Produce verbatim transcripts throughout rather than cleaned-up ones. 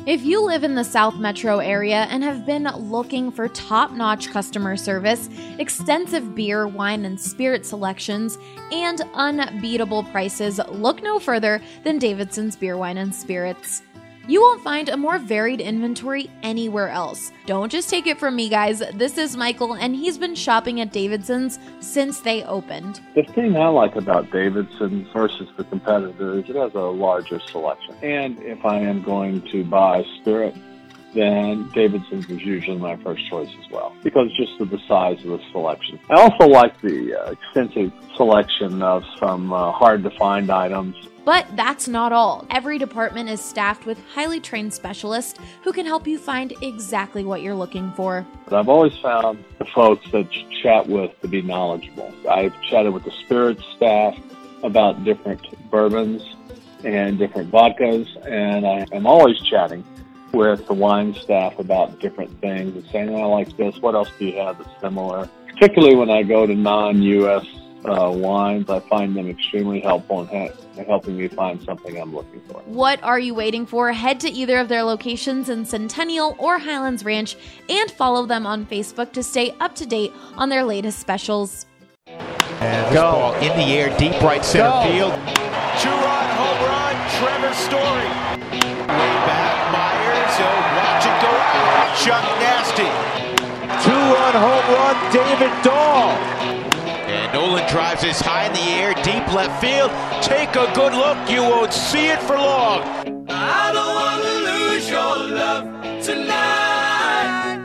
If you live in the South Metro area and have been looking for top-notch customer service, extensive beer, wine, and spirit selections, and unbeatable prices, look no further than Davidson's Beer, Wine, and Spirits. You won't find a more varied inventory anywhere else. Don't just take it from me, guys. This is Michael, and he's been shopping at Davidson's since they opened. The thing I like about Davidson's versus the competitor is it has a larger selection. And if I am going to buy spirit, then Davidson's is usually my first choice as well, because just of the size of the selection. I also like the uh, extensive selection of some uh, hard-to-find items. But that's not all. Every department is staffed with highly trained specialists who can help you find exactly what you're looking for. But I've always found the folks that you chat with to be knowledgeable. I've chatted with the spirits staff about different bourbons and different vodkas, and I am always chatting with the wine staff about different things and saying, oh, I like this, what else do you have that's similar? Particularly when I go to non-U S Uh, wines, I find them extremely helpful in, ha- in helping me find something I'm looking for. What are you waiting for? Head to either of their locations in Centennial or Highlands Ranch and follow them on Facebook to stay up to date on their latest specials. And this ball in the air, deep right center Go. field. Two-run home run, Trevor Story. Way back, Myers, oh, watch it go out. Chuck Nasty. Two-run home run, David Dahl. And Nolan drives this high in the air, deep left field. Take a good look, you won't see it for long. I don't want to lose your love tonight.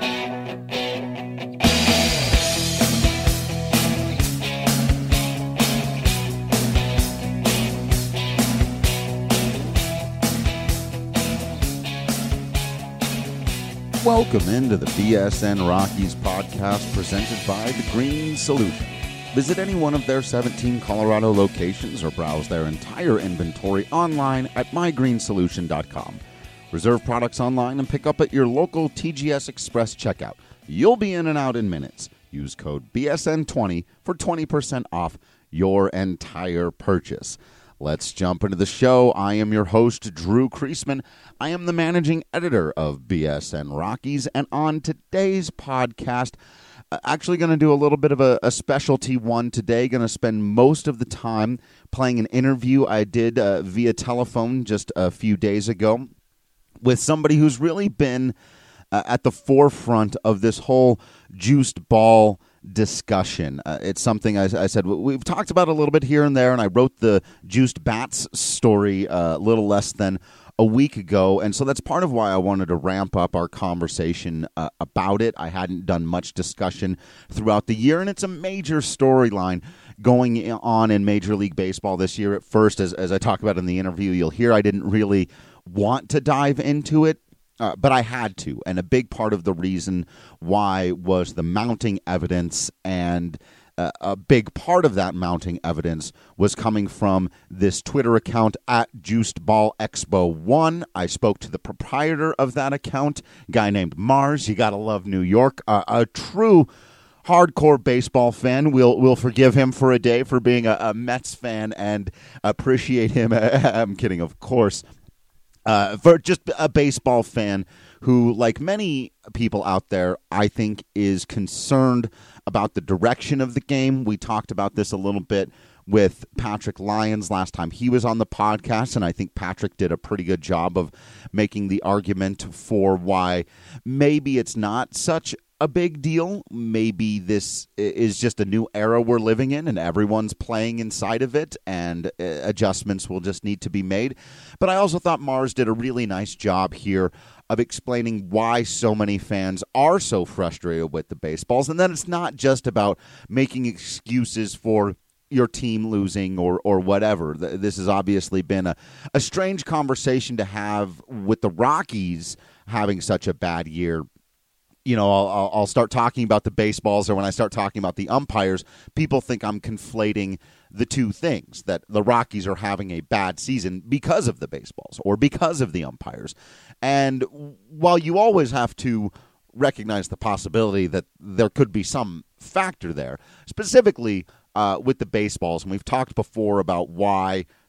Welcome into the B S N Rockies podcast presented by The Green Solution. Visit any one of their seventeen Colorado locations or browse their entire inventory online at my green solution dot com. Reserve products online and pick up at your local T G S Express checkout. You'll be in and out in minutes. Use code B S N twenty for twenty percent off your entire purchase. Let's jump into the show. I am your host, Drew Kreisman. I am the managing editor of B S N Rockies, and on today's podcast, actually going to do a little bit of a, a specialty one today. Going to spend most of the time playing an interview I did uh, via telephone just a few days ago with somebody who's really been uh, at the forefront of this whole juiced ball discussion. Uh, it's something I, I said we've talked about a little bit here and there, and I wrote the juiced bats story uh, a little less than a week ago, and so that's part of why I wanted to ramp up our conversation uh, about it. I hadn't done much discussion throughout the year, and it's a major storyline going on in Major League Baseball this year. At first, as, as I talk about in the interview, you'll hear I didn't really want to dive into it, uh, but I had to, and a big part of the reason why was the mounting evidence, and Uh, a big part of that mounting evidence was coming from this Twitter account at Juiced Ball Expo one. I spoke to the proprietor of that account, a guy named Mars. You gotta love New York. Uh, a true hardcore baseball fan. We'll we'll forgive him for a day for being a, a Mets fan and appreciate him. I'm kidding, of course. Uh, for just a baseball fan who, like many people out there, I think is concerned about the direction of the game. We talked about this a little bit with Patrick Lyons last time he was on the podcast, and I think Patrick did a pretty good job of making the argument for why maybe it's not such a big deal. Maybe this is just a new era we're living in, and everyone's playing inside of it, and adjustments will just need to be made. But I also thought Mars did a really nice job here of explaining why so many fans are so frustrated with the baseballs, and then it's not just about making excuses for your team losing or or whatever. This has obviously been a, a strange conversation to have with the Rockies having such a bad year. You know, I'll, I'll start talking about the baseballs, or when I start talking about the umpires, people think I'm conflating the two things, that the Rockies are having a bad season because of the baseballs or because of the umpires. And while you always have to recognize the possibility that there could be some factor there, specifically uh, with the baseballs, and we've talked before about why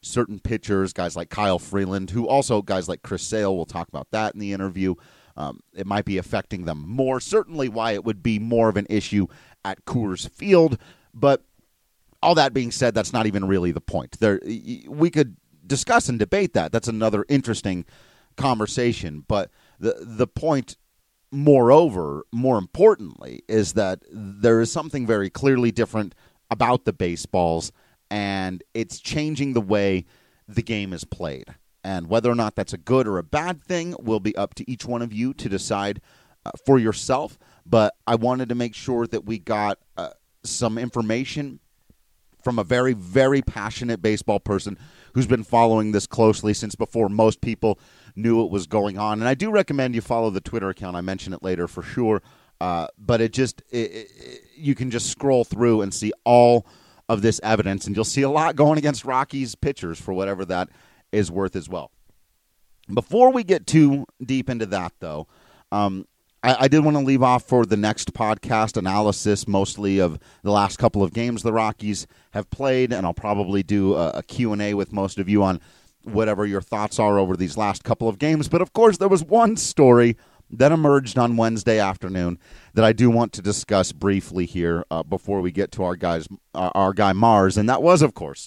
certain pitchers, guys like Kyle Freeland, who also guys like Chris Sale, we'll talk about that in the interview. Um, it might be affecting them more. Certainly why it would be more of an issue at Coors Field. But all that being said, that's not even really the point. There, we could discuss and debate that. That's another interesting conversation. But the the point, moreover, more importantly, is that there is something very clearly different about the baseballs, and it's changing the way the game is played. And whether or not that's a good or a bad thing will be up to each one of you to decide uh, for yourself. But I wanted to make sure that we got uh, some information from a very, very passionate baseball person who's been following this closely since before most people knew it was going on. And I do recommend you follow the Twitter account. I mention it later for sure. Uh, but it just, it, it, you can just scroll through and see all of this evidence, and you'll see a lot going against Rockies pitchers for whatever that is worth as well. Before we get too deep into that, though, um, I, I did want to leave off for the next podcast analysis, mostly of the last couple of games the Rockies have played, and I'll probably do a, a Q and A with most of you on whatever your thoughts are over these last couple of games. But, of course, there was one story that emerged on Wednesday afternoon that I do want to discuss briefly here uh, before we get to our guys, uh, our guy Mars, and that was, of course,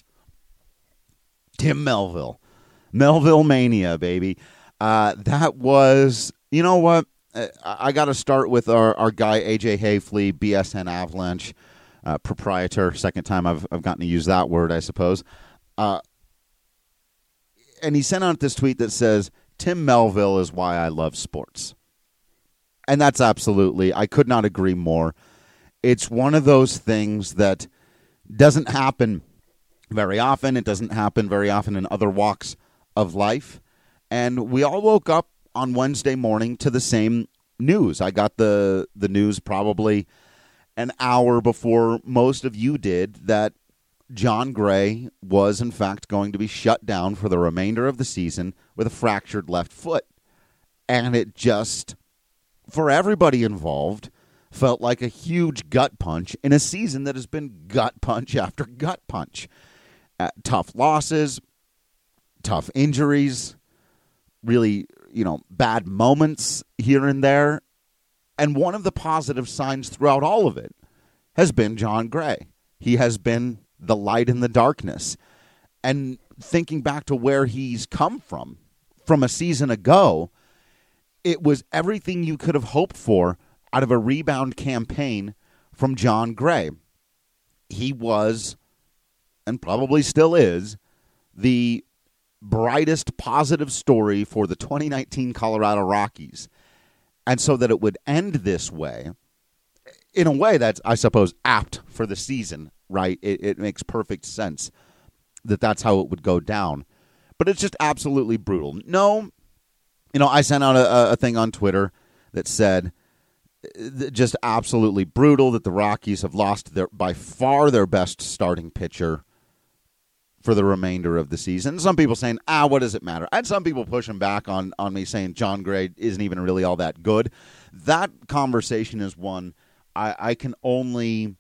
Tim Melville. Melville Mania, baby. Uh, that was, you know what? I, I got to start with our, our guy, A J Hayfley, B S N Avalanche uh, proprietor. Second time I've, I've gotten to use that word, I suppose. Uh, and he sent out this tweet that says, Tim Melville is why I love sports. And that's absolutely, I could not agree more. It's one of those things that doesn't happen very often. It doesn't happen very often in other walks of life. And we all woke up on Wednesday morning to the same news. I got the, the news probably an hour before most of you did that Jon Gray was, in fact, going to be shut down for the remainder of the season with a fractured left foot. And it just, for everybody involved, felt like a huge gut punch in a season that has been gut punch after gut punch. Uh, tough losses, tough injuries, really, you know, bad moments here and there. And one of the positive signs throughout all of it has been Jon Gray. He has been the light in the darkness. And thinking back to where he's come from, from a season ago, it was everything you could have hoped for out of a rebound campaign from Jon Gray. He was, and probably still is, the brightest positive story for the twenty nineteen Colorado Rockies. And so that it would end this way, in a way that's, I suppose, apt for the season, right? It, it makes perfect sense that that's how it would go down. But it's just absolutely brutal. No, you know, I sent out a, a thing on Twitter that said just absolutely brutal that the Rockies have lost their by far their best starting pitcher for the remainder of the season. Some people saying, ah, what does it matter? I had some people pushing back on, on me saying Jon Gray isn't even really all that good. That conversation is one I, I can only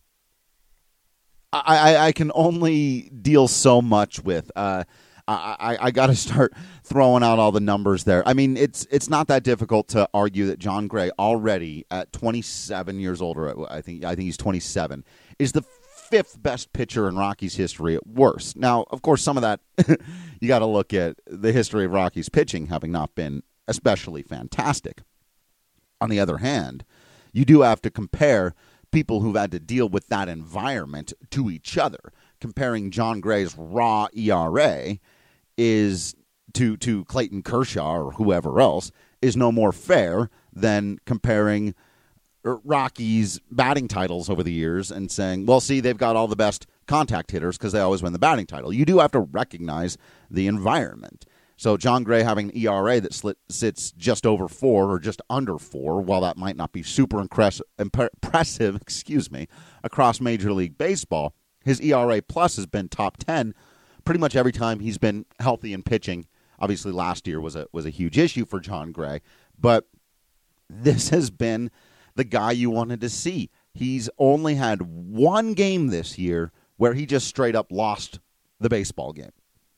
I, I, I can only deal so much with. Uh, I, I, I got to start throwing out all the numbers there. I mean, it's it's not that difficult to argue that Jon Gray already at twenty-seven years old, or I think I think he's twenty-seven, is the fifth best pitcher in Rockies history at worst. Now, of course, some of that you got to look at the history of Rockies pitching having not been especially fantastic. On the other hand, you do have to compare people who've had to deal with that environment to each other. Comparing Jon Gray's raw E R A is to to Clayton Kershaw or whoever else is no more fair than comparing Rockies' batting titles over the years and saying, well, see, they've got all the best contact hitters because they always win the batting title. You do have to recognize the environment. So Jon Gray having an E R A that slit, sits just over four or just under four, while that might not be super impressive, impressive excuse me, across Major League Baseball, his E R A plus has been top ten pretty much every time he's been healthy and pitching. Obviously, last year was a was a huge issue for Jon Gray, but this has been the guy you wanted to see. He's only had one game this year where he just straight up lost the baseball game.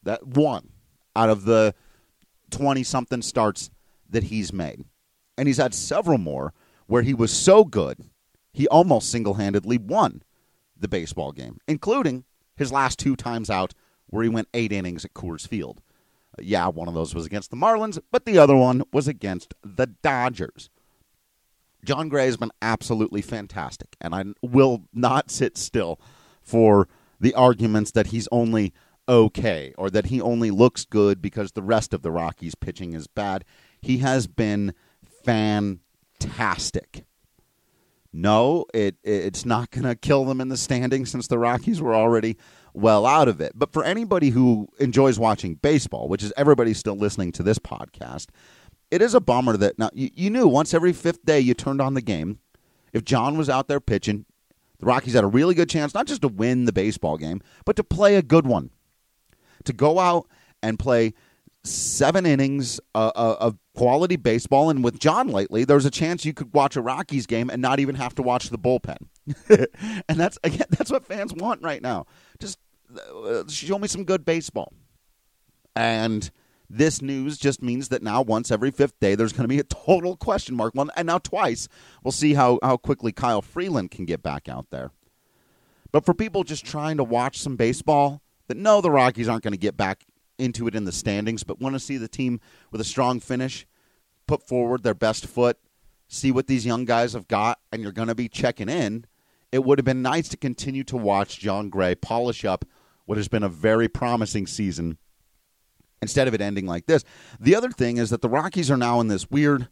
That one out of the twenty-something starts that he's made. And he's had several more where he was so good, he almost single-handedly won the baseball game, including his last two times out where he went eight innings at Coors Field. Uh, yeah, one of those was against the Marlins, but the other one was against the Dodgers. Jon Gray has been absolutely fantastic, and I will not sit still for the arguments that he's only okay or that he only looks good because the rest of the Rockies' pitching is bad. He has been fantastic. No, it it's not going to kill them in the standings since the Rockies were already well out of it. But for anybody who enjoys watching baseball, which is everybody still listening to this podcast, it is a bummer that now you, you knew once every fifth day you turned on the game, if John was out there pitching, the Rockies had a really good chance not just to win the baseball game, but to play a good one. To go out and play seven innings uh, of quality baseball, and with John lately, there's a chance you could watch a Rockies game and not even have to watch the bullpen. And that's again, that's what fans want right now. Just uh, show me some good baseball. And this news just means that now once every fifth day, there's going to be a total question mark. One, and now twice. We'll see how, how quickly Kyle Freeland can get back out there. But for people just trying to watch some baseball, that know the Rockies aren't going to get back into it in the standings, but want to see the team with a strong finish, put forward their best foot, see what these young guys have got, and you're going to be checking in, it would have been nice to continue to watch Jon Gray polish up what has been a very promising season instead of it ending like this. The other thing is that the Rockies are now in this weird,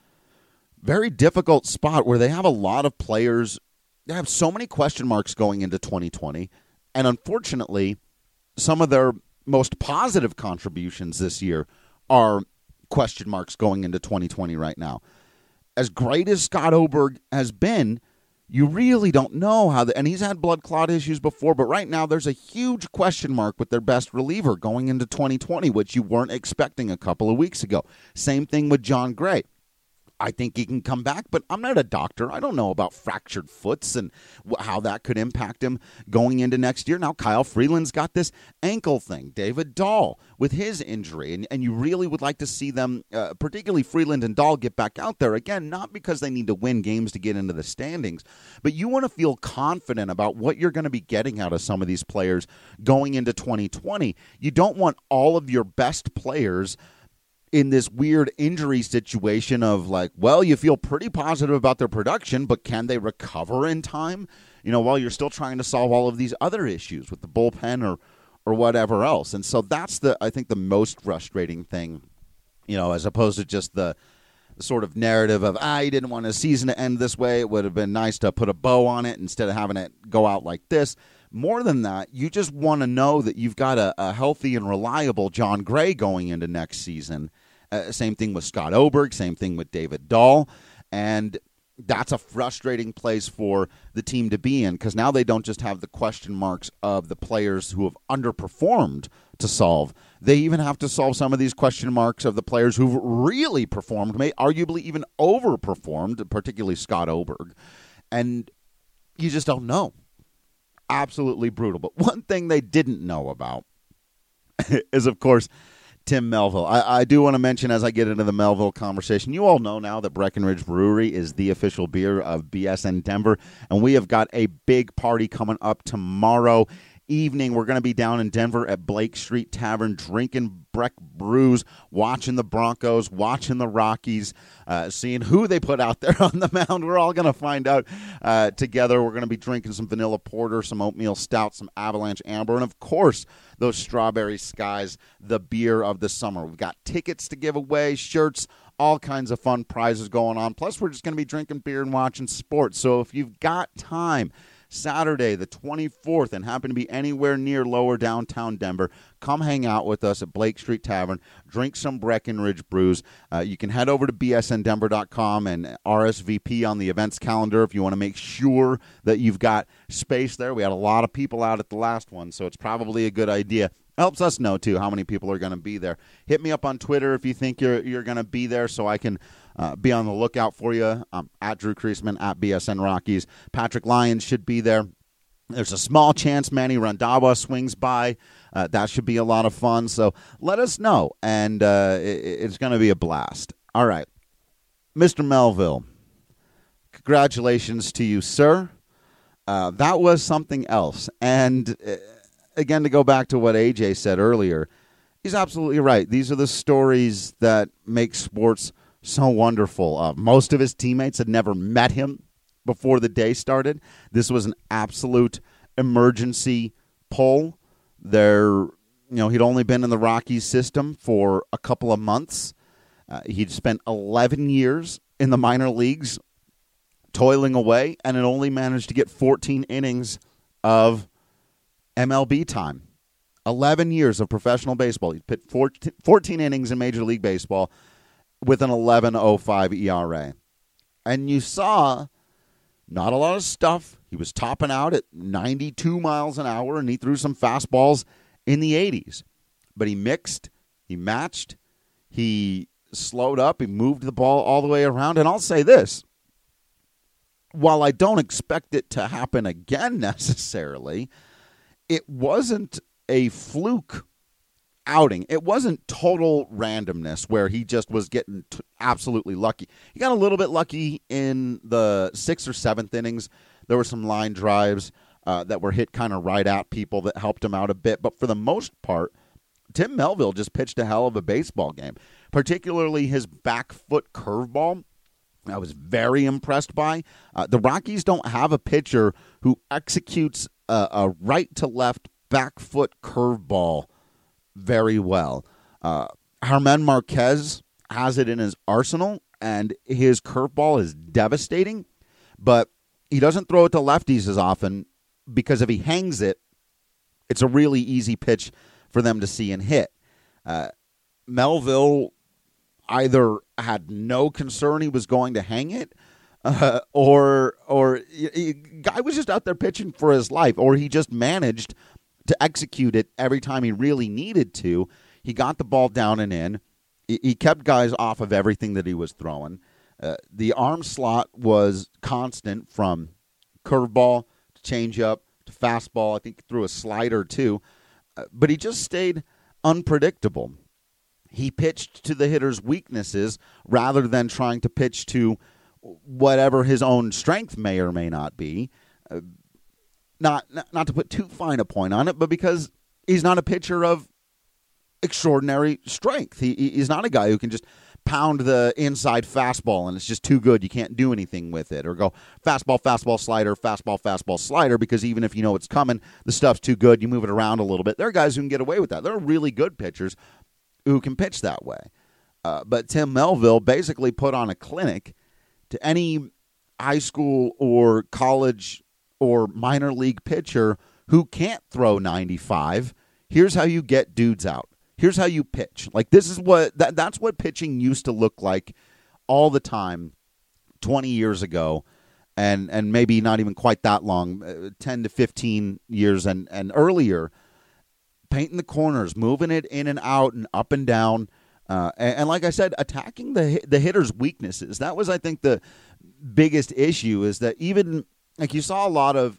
very difficult spot where they have a lot of players. They have so many question marks going into twenty twenty, and unfortunately, some of their most positive contributions this year are question marks going into twenty twenty right now. As great as Scott Oberg has been, you really don't know how the, and he's had blood clot issues before, but right now there's a huge question mark with their best reliever going into twenty twenty, which you weren't expecting a couple of weeks ago. Same thing with Jon Gray. I think he can come back, but I'm not a doctor. I don't know about fractured foots and how that could impact him going into next year. Now, Kyle Freeland's got this ankle thing. David Dahl with his injury, and, and you really would like to see them, uh, particularly Freeland and Dahl, get back out there. Again, not because they need to win games to get into the standings, but you want to feel confident about what you're going to be getting out of some of these players going into twenty twenty. You don't want all of your best players in this weird injury situation of like, well, you feel pretty positive about their production, but can they recover in time? You know, while you're still trying to solve all of these other issues with the bullpen or or whatever else. And so that's the, I think, the most frustrating thing, you know, as opposed to just the, the sort of narrative of, ah, you didn't want a season to end this way. It would have been nice to put a bow on it instead of having it go out like this. More than that, you just want to know that you've got a, a healthy and reliable Jon Gray going into next season. Uh, same thing with Scott Oberg, same thing with David Dahl, and that's a frustrating place for the team to be in because now they don't just have the question marks of the players who have underperformed to solve. They even have to solve some of these question marks of the players who've really performed, may arguably even overperformed, particularly Scott Oberg, and you just don't know. Absolutely brutal. But one thing they didn't know about is, of course, Tim Melville. I, I do want to mention as I get into the Melville conversation, you all know now that Breckenridge Brewery is the official beer of B S N Denver, and we have got a big party coming up tomorrow evening. We're going to be down in Denver at Blake Street Tavern drinking Breck brews, watching the Broncos, watching the Rockies, uh, seeing who they put out there on the mound. We're all going to find out uh, together. We're going to be drinking some vanilla porter, some oatmeal stout, some Avalanche Amber, and of course, those Strawberry Skies, the beer of the summer. We've got tickets to give away, shirts, all kinds of fun prizes going on. Plus, we're just going to be drinking beer and watching sports. So if you've got time, Saturday the twenty-fourth, and happen to be anywhere near lower downtown Denver, come hang out with us at Blake Street Tavern, drink some Breckenridge brews. Uh, you can head over to b s n denver dot com and R S V P on the events calendar if you want to make sure that you've got space there. We had a lot of people out at the last one, so it's probably a good idea. Helps us know, too, how many people are going to be there. Hit me up on Twitter if you think you're you're going to be there so I can uh, be on the lookout for you. Um, at Drew Creasman, at B S N Rockies. Patrick Lyons should be there. There's a small chance Manny Randhawa swings by. Uh, that should be a lot of fun. So let us know, and uh, it, it's going to be a blast. All right. Mister Melville, congratulations to you, sir. Uh, that was something else. And, uh, again, to go back to what A J said earlier, he's absolutely right. These are the stories that make sports so wonderful. Uh, most of his teammates had never met him before the day started. This was an absolute emergency pull. There, you know, he'd only been in the Rockies system for a couple of months. Uh, he'd spent eleven years in the minor leagues toiling away, and had only managed to get fourteen innings of M L B time. eleven years of professional baseball. He pitched fourteen innings in Major League Baseball with an eleven oh five E R A. And you saw not a lot of stuff. He was topping out at ninety-two miles an hour, and he threw some fastballs in the eighties. But he mixed, he matched, he slowed up, he moved the ball all the way around. And I'll say this, while I don't expect it to happen again necessarily, it wasn't a fluke outing. It wasn't total randomness where he just was getting t- absolutely lucky. He got a little bit lucky in the sixth or seventh innings. There were some line drives uh, that were hit kind of right at people that helped him out a bit. But for the most part, Tim Melville just pitched a hell of a baseball game, particularly his back foot curveball. I was very impressed by. Uh, the Rockies don't have a pitcher who executes a, a right-to-left back foot curveball very well. Uh, German Marquez has it in his arsenal, and his curveball is devastating, but he doesn't throw it to lefties as often because if he hangs it, it's a really easy pitch for them to see and hit. Uh, Melville either had no concern he was going to hang it, uh, or or he, guy was just out there pitching for his life, or he just managed to execute it every time he really needed to. He got the ball down and in. He, he kept guys off of everything that he was throwing. Uh, the arm slot was constant from curveball to changeup to fastball. I think he threw a slider too. Uh, but he just stayed unpredictable. He pitched to the hitter's weaknesses rather than trying to pitch to whatever his own strength may or may not be. Uh, not, not not to put too fine a point on it, but because he's not a pitcher of extraordinary strength. He He's not a guy who can just pound the inside fastball and it's just too good, you can't do anything with it. Or go fastball, fastball, slider, fastball, fastball, slider, because even if you know it's coming, the stuff's too good, you move it around a little bit. There are guys who can get away with that. There are really good pitchers who can pitch that way. Uh, but Tim Melville basically put on a clinic to any high school or college or minor league pitcher who can't throw ninety-five. Here's how you get dudes out. Here's how you pitch. Like, this is what that, that's what pitching used to look like all the time twenty years ago, and and maybe not even quite that long, uh, ten to fifteen years and, and earlier. Painting the corners, moving it in and out and up and down. Uh, and, and like I said, attacking the the hitter's weaknesses. That was, I think, the biggest issue, is that even, like, you saw a lot of,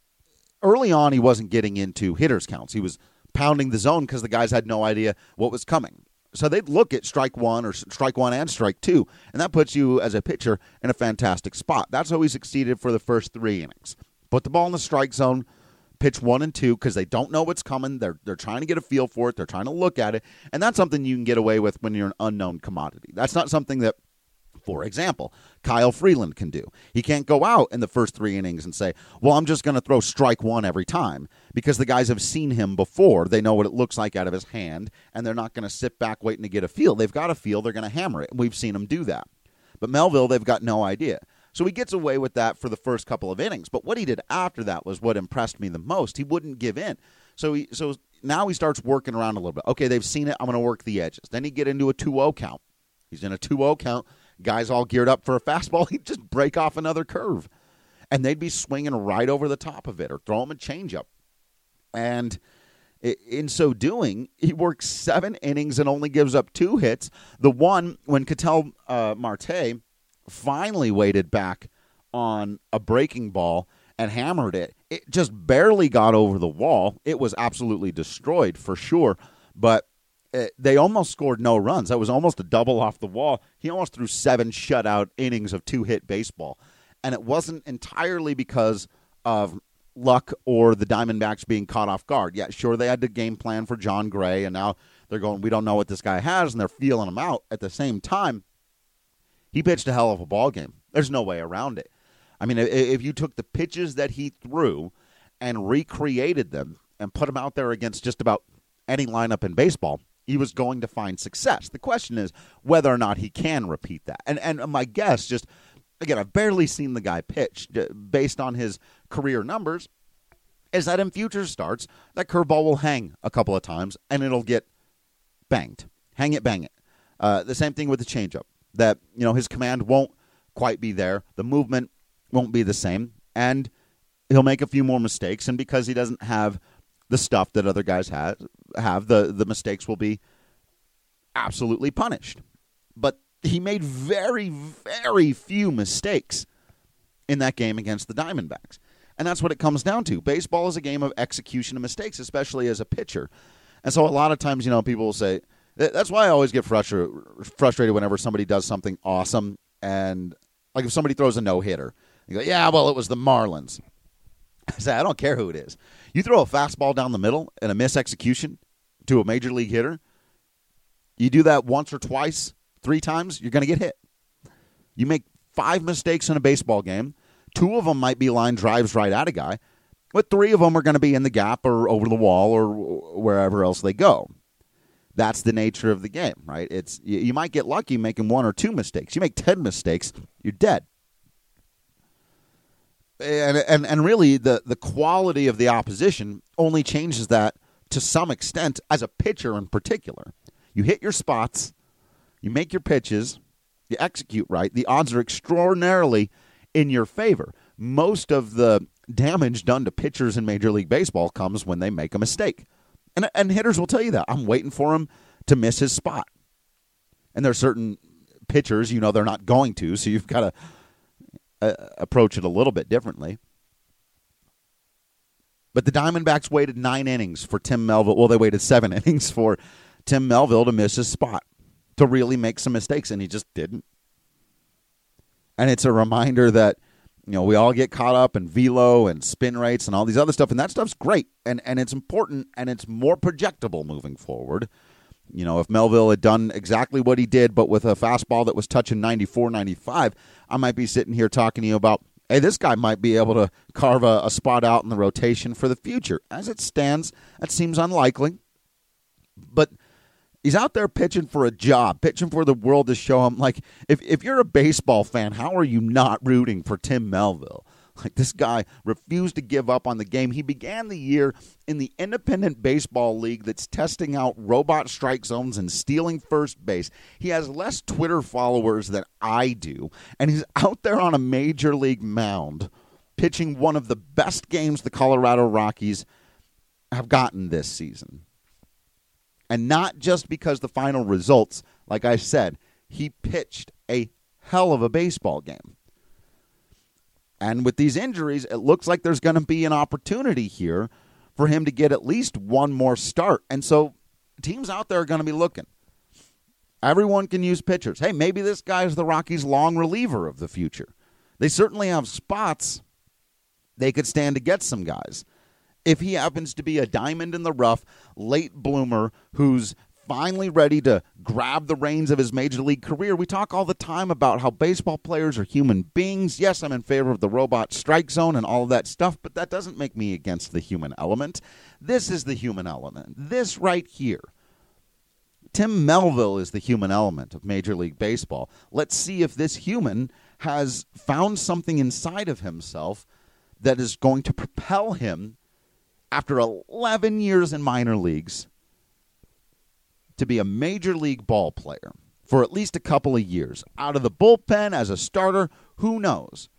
early on he wasn't getting into hitter's counts. He was pounding the zone because the guys had no idea what was coming. So they'd look at strike one or strike one and strike two, and that puts you as a pitcher in a fantastic spot. That's how he succeeded for the first three innings. Put the ball in the strike zone, pitch one and two because they don't know what's coming. They're they're trying to get a feel for it. They're trying to look at it, and that's something you can get away with when you're an unknown commodity. That's not something that, for example, Kyle Freeland can do. He can't go out in the first three innings and say, well, I'm just going to throw strike one every time, because the guys have seen him before. They know what it looks like out of his hand, and they're not going to sit back waiting to get a feel. They've got a feel. They're going to hammer it, and we've seen him do that. But Melville, they've got no idea. So he gets away with that for the first couple of innings. But what he did after that was what impressed me the most. He wouldn't give in. So he, so now he starts working around a little bit. Okay, they've seen it. I'm going to work the edges. Then he'd get into a two oh count. He's in a two oh count. Guys all geared up for a fastball. He'd just break off another curve. And they'd be swinging right over the top of it or throw him a changeup. And in so doing, he works seven innings and only gives up two hits. The one, when Ketel uh, Marte finally waited back on a breaking ball and hammered it. It just barely got over the wall. It was absolutely destroyed for sure, but it, they almost scored no runs. That was almost a double off the wall. He almost threw seven shutout innings of two-hit baseball, and it wasn't entirely because of luck or the Diamondbacks being caught off guard. Yeah, sure, they had the game plan for John Gray, and now they're going, we don't know what this guy has, and they're feeling him out. At the same time, he pitched a hell of a ball game. There's no way around it. I mean, if you took the pitches that he threw and recreated them and put them out there against just about any lineup in baseball, he was going to find success. The question is whether or not he can repeat that. And and my guess, just, again, I've barely seen the guy pitch based on his career numbers, is that in future starts, that curveball will hang a couple of times and it'll get banged. Hang it, bang it. Uh, the same thing with the changeup. That, you know, his command won't quite be there. The movement won't be the same. And he'll make a few more mistakes. And because he doesn't have the stuff that other guys have, have the, the mistakes will be absolutely punished. But he made very, very few mistakes in that game against the Diamondbacks. And that's what it comes down to. Baseball is a game of execution of mistakes, especially as a pitcher. And so a lot of times, you know, people will say, that's why I always get frustrated frustrated whenever somebody does something awesome. And like if somebody throws a no-hitter, you go, yeah, well, it was the Marlins. I say, I don't care who it is. You throw a fastball down the middle and a mis-execution to a major league hitter, you do that once or twice, three times, you're going to get hit. You make five mistakes in a baseball game. Two of them might be line drives right at a guy, but three of them are going to be in the gap or over the wall or wherever else they go. That's the nature of the game, right? It's you, you might get lucky making one or two mistakes. You make ten mistakes, you're dead. And and and really, the, the quality of the opposition only changes that to some extent as a pitcher in particular. You hit your spots, you make your pitches, you execute right, the odds are extraordinarily in your favor. Most of the damage done to pitchers in Major League Baseball comes when they make a mistake. And, and hitters will tell you that. I'm waiting for him to miss his spot. And there are certain pitchers, you know, they're not going to, so you've got to uh, approach it a little bit differently. But the Diamondbacks waited nine innings for Tim Melville. Well, they waited seven innings for Tim Melville to miss his spot, to really make some mistakes, and he just didn't. And it's a reminder that, you know, we all get caught up in velo and spin rates and all these other stuff, and that stuff's great, and, and it's important, and it's more projectable moving forward. You know, if Melville had done exactly what he did, but with a fastball that was touching ninety-four, ninety-five, I might be sitting here talking to you about, hey, this guy might be able to carve a, a spot out in the rotation for the future. As it stands, that seems unlikely, but he's out there pitching for a job, pitching for the world to show him. Like, if, if you're a baseball fan, how are you not rooting for Tim Melville? Like, this guy refused to give up on the game. He began the year in the independent baseball league that's testing out robot strike zones and stealing first base. He has less Twitter followers than I do, and he's out there on a major league mound pitching one of the best games the Colorado Rockies have gotten this season. And not just because the final results, like I said, he pitched a hell of a baseball game. And with these injuries, it looks like there's going to be an opportunity here for him to get at least one more start. And so teams out there are going to be looking. Everyone can use pitchers. Hey, maybe this guy is the Rockies' long reliever of the future. They certainly have spots. They could stand to get some guys. If he happens to be a diamond in the rough, late bloomer who's finally ready to grab the reins of his major league career, we talk all the time about how baseball players are human beings. Yes, I'm in favor of the robot strike zone and all of that stuff, but that doesn't make me against the human element. This is the human element. This right here. Tim Melville is the human element of Major League Baseball. Let's see if this human has found something inside of himself that is going to propel him after eleven years in minor leagues to be a major league ball player for at least a couple of years. Out of the bullpen as a starter, who knows?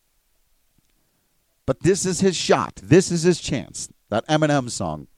But this is his shot. This is his chance. That Eminem song.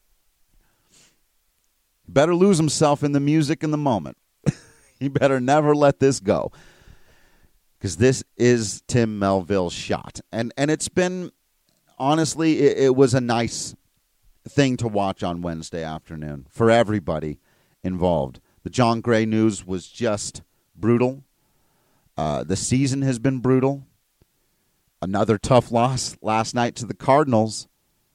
He better lose himself in the music in the moment. He better never let this go. Because this is Tim Melville's shot. And and it's been honestly, it, it was a nice thing to watch on Wednesday afternoon for everybody involved. The John Gray news was just brutal. Uh, the season has been brutal. Another tough loss last night to the Cardinals.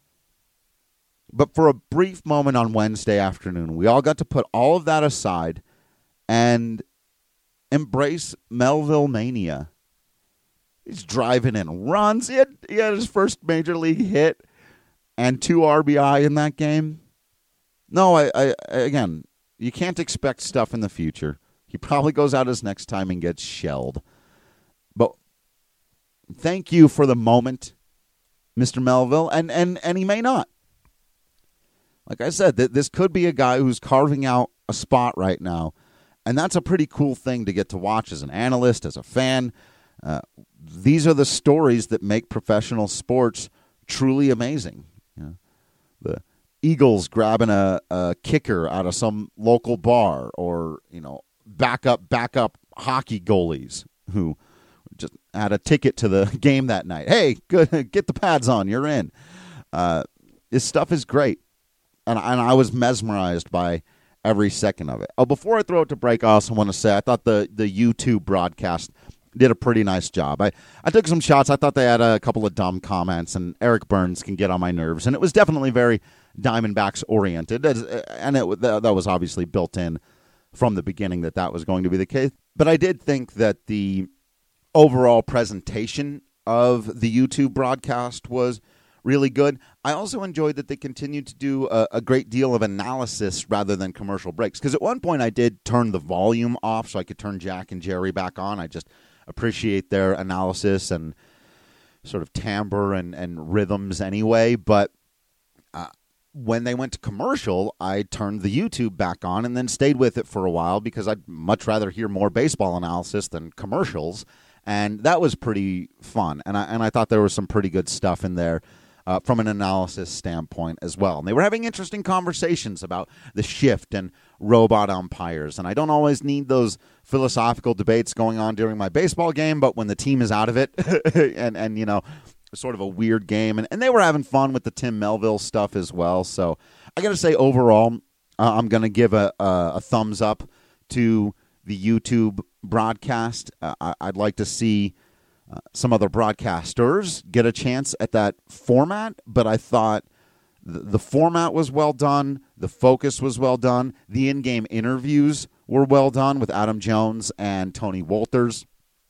But for a brief moment on Wednesday afternoon, we all got to put all of that aside and embrace Melville mania. He's driving in runs. He had, he had his first major league hit and two R B I in that game. No, I, I again, you can't expect stuff in the future. He probably goes out his next time and gets shelled. But thank you for the moment, Mister Melville, and, and, and he may not. Like I said, th- this could be a guy who's carving out a spot right now, and that's a pretty cool thing to get to watch as an analyst, as a fan. Uh, these are the stories that make professional sports truly amazing. You know, the Eagles grabbing a, a kicker out of some local bar, or you know, backup backup hockey goalies who just had a ticket to the game that night. Hey, good, get the pads on, you're in. Uh, this stuff is great. And, and I was mesmerized by every second of it. Oh, before I throw it to break, I also want to say I thought the, the YouTube broadcast did a pretty nice job. I, I took some shots. I thought they had a couple of dumb comments, and Eric Burns can get on my nerves. And it was definitely very Diamondbacks-oriented, and it, that was obviously built in from the beginning that that was going to be the case. But I did think that the overall presentation of the YouTube broadcast was really good. I also enjoyed that they continued to do a, a great deal of analysis rather than commercial breaks. Because at one point I did turn the volume off so I could turn Jack and Jerry back on. I just appreciate their analysis and sort of timbre and, and rhythms anyway. But uh, when they went to commercial, I turned the YouTube back on and then stayed with it for a while because I'd much rather hear more baseball analysis than commercials. And that was pretty fun. And I, and I thought there was some pretty good stuff in there. Uh, from an analysis standpoint as well. And they were having interesting conversations about the shift and robot umpires. And I don't always need those philosophical debates going on during my baseball game, but when the team is out of it and, and you know, sort of a weird game. And, and they were having fun with the Tim Melville stuff as well. So I got to say, overall, uh, I'm going to give a, a, a thumbs up to the YouTube broadcast. Uh, I, I'd like to see Uh, some other broadcasters get a chance at that format, but I thought th- the format was well done, the focus was well done, the in-game interviews were well done with Adam Jones and Tony Wolters.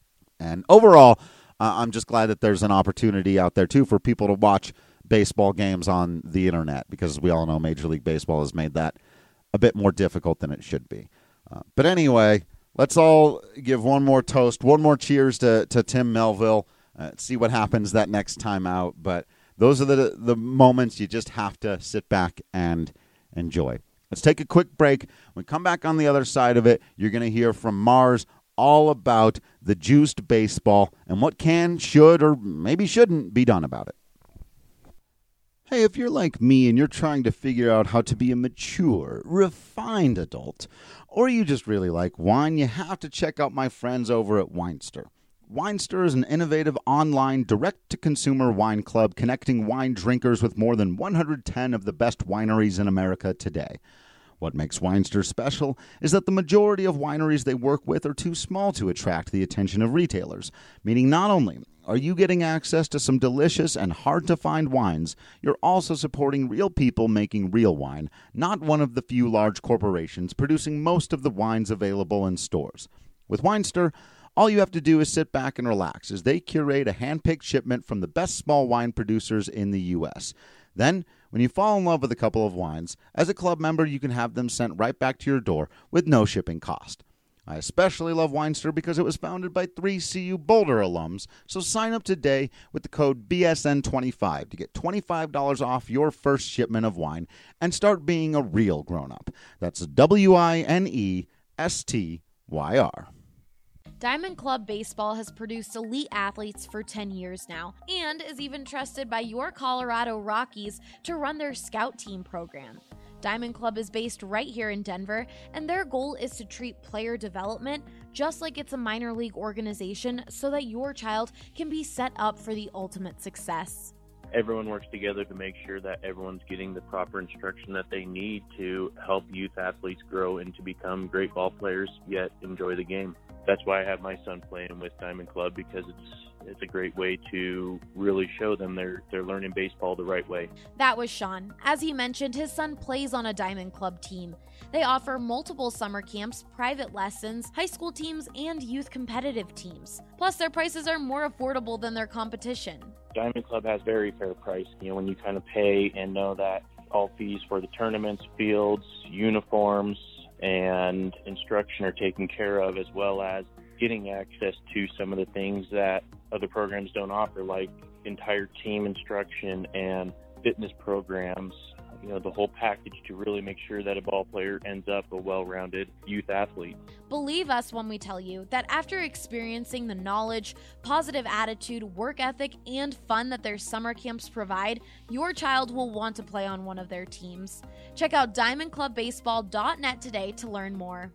And overall, uh, I'm just glad that there's an opportunity out there, too, for people to watch baseball games on the internet, because we all know Major League Baseball has made that a bit more difficult than it should be. Uh, but anyway, let's all give one more toast, one more cheers to, to Tim Melville, uh, see what happens that next time out. But those are the the moments you just have to sit back and enjoy. Let's take a quick break. When we come back on the other side of it, you're going to hear from Mars all about the juiced baseball and what can, should, or maybe shouldn't be done about it. Hey, if you're like me and you're trying to figure out how to be a mature, refined adult, or you just really like wine, you have to check out my friends over at Winester. Winester is an innovative online direct-to-consumer wine club connecting wine drinkers with more than one hundred ten of the best wineries in America today. What makes Winester special is that the majority of wineries they work with are too small to attract the attention of retailers, meaning not only are you getting access to some delicious and hard-to-find wines, you're also supporting real people making real wine, not one of the few large corporations producing most of the wines available in stores. With Winester, all you have to do is sit back and relax as they curate a hand-picked shipment from the best small wine producers in the U S Then, when you fall in love with a couple of wines, as a club member, you can have them sent right back to your door with no shipping cost. I especially love Winester because it was founded by three C U Boulder alums, so sign up today with the code B S N twenty-five to get twenty-five dollars off your first shipment of wine and start being a real grown-up. That's W I N E S T Y R. Diamond Club Baseball has produced elite athletes for ten years now and is even trusted by your Colorado Rockies to run their scout team program. Diamond Club is based right here in Denver, and their goal is to treat player development just like it's a minor league organization so that your child can be set up for the ultimate success. everyone works together to make sure that everyone's getting the proper instruction that they need to help youth athletes grow and to become great ball players, yet enjoy the game. That's why I have my son playing with Diamond Club, because it's it's a great way to really show them they're they're learning baseball the right way. That was Sean. As he mentioned, his son plays on a Diamond Club team. They offer multiple summer camps, private lessons, high school teams, and youth competitive teams. Plus, their prices are more affordable than their competition. Diamond Club has very fair price. You know, when you kind of pay and know that all fees for the tournaments, fields, uniforms, and instruction are taken care of, as well as getting access to some of the things that other programs don't offer, like entire team instruction and fitness programs, you know, the whole package to really make sure that a ball player ends up a well-rounded youth athlete. Believe us when we tell you that after experiencing the knowledge, positive attitude, work ethic, and fun that their summer camps provide, your child will want to play on one of their teams. Check out diamond club baseball dot net today to learn more.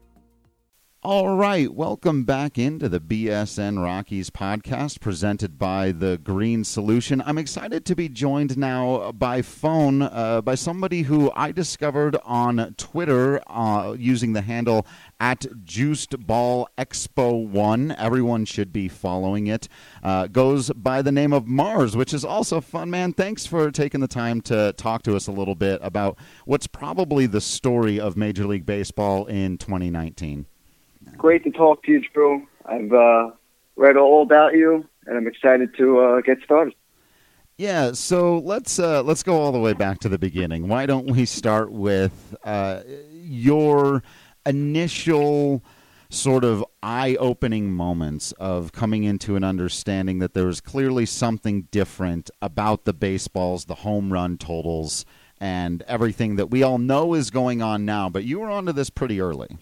All right, welcome back into the B S N Rockies podcast presented by The Green Solution. I'm excited to be joined now by phone uh, by somebody who I discovered on Twitter uh, using the handle at Juiced Ball Expo one. Everyone should be following it. Uh, goes by the name of Mars, which is also fun, man. Thanks for taking the time to talk to us a little bit about what's probably the story of Major League Baseball in twenty nineteen. Great to talk to you, Drew. I've uh, read all about you, and I'm excited to uh, get started. Yeah, so let's uh, let's go all the way back to the beginning. Why don't we start with uh, your initial sort of eye-opening moments of coming into an understanding that there was clearly something different about the baseballs, the home run totals, and everything that we all know is going on now, but you were onto this pretty early.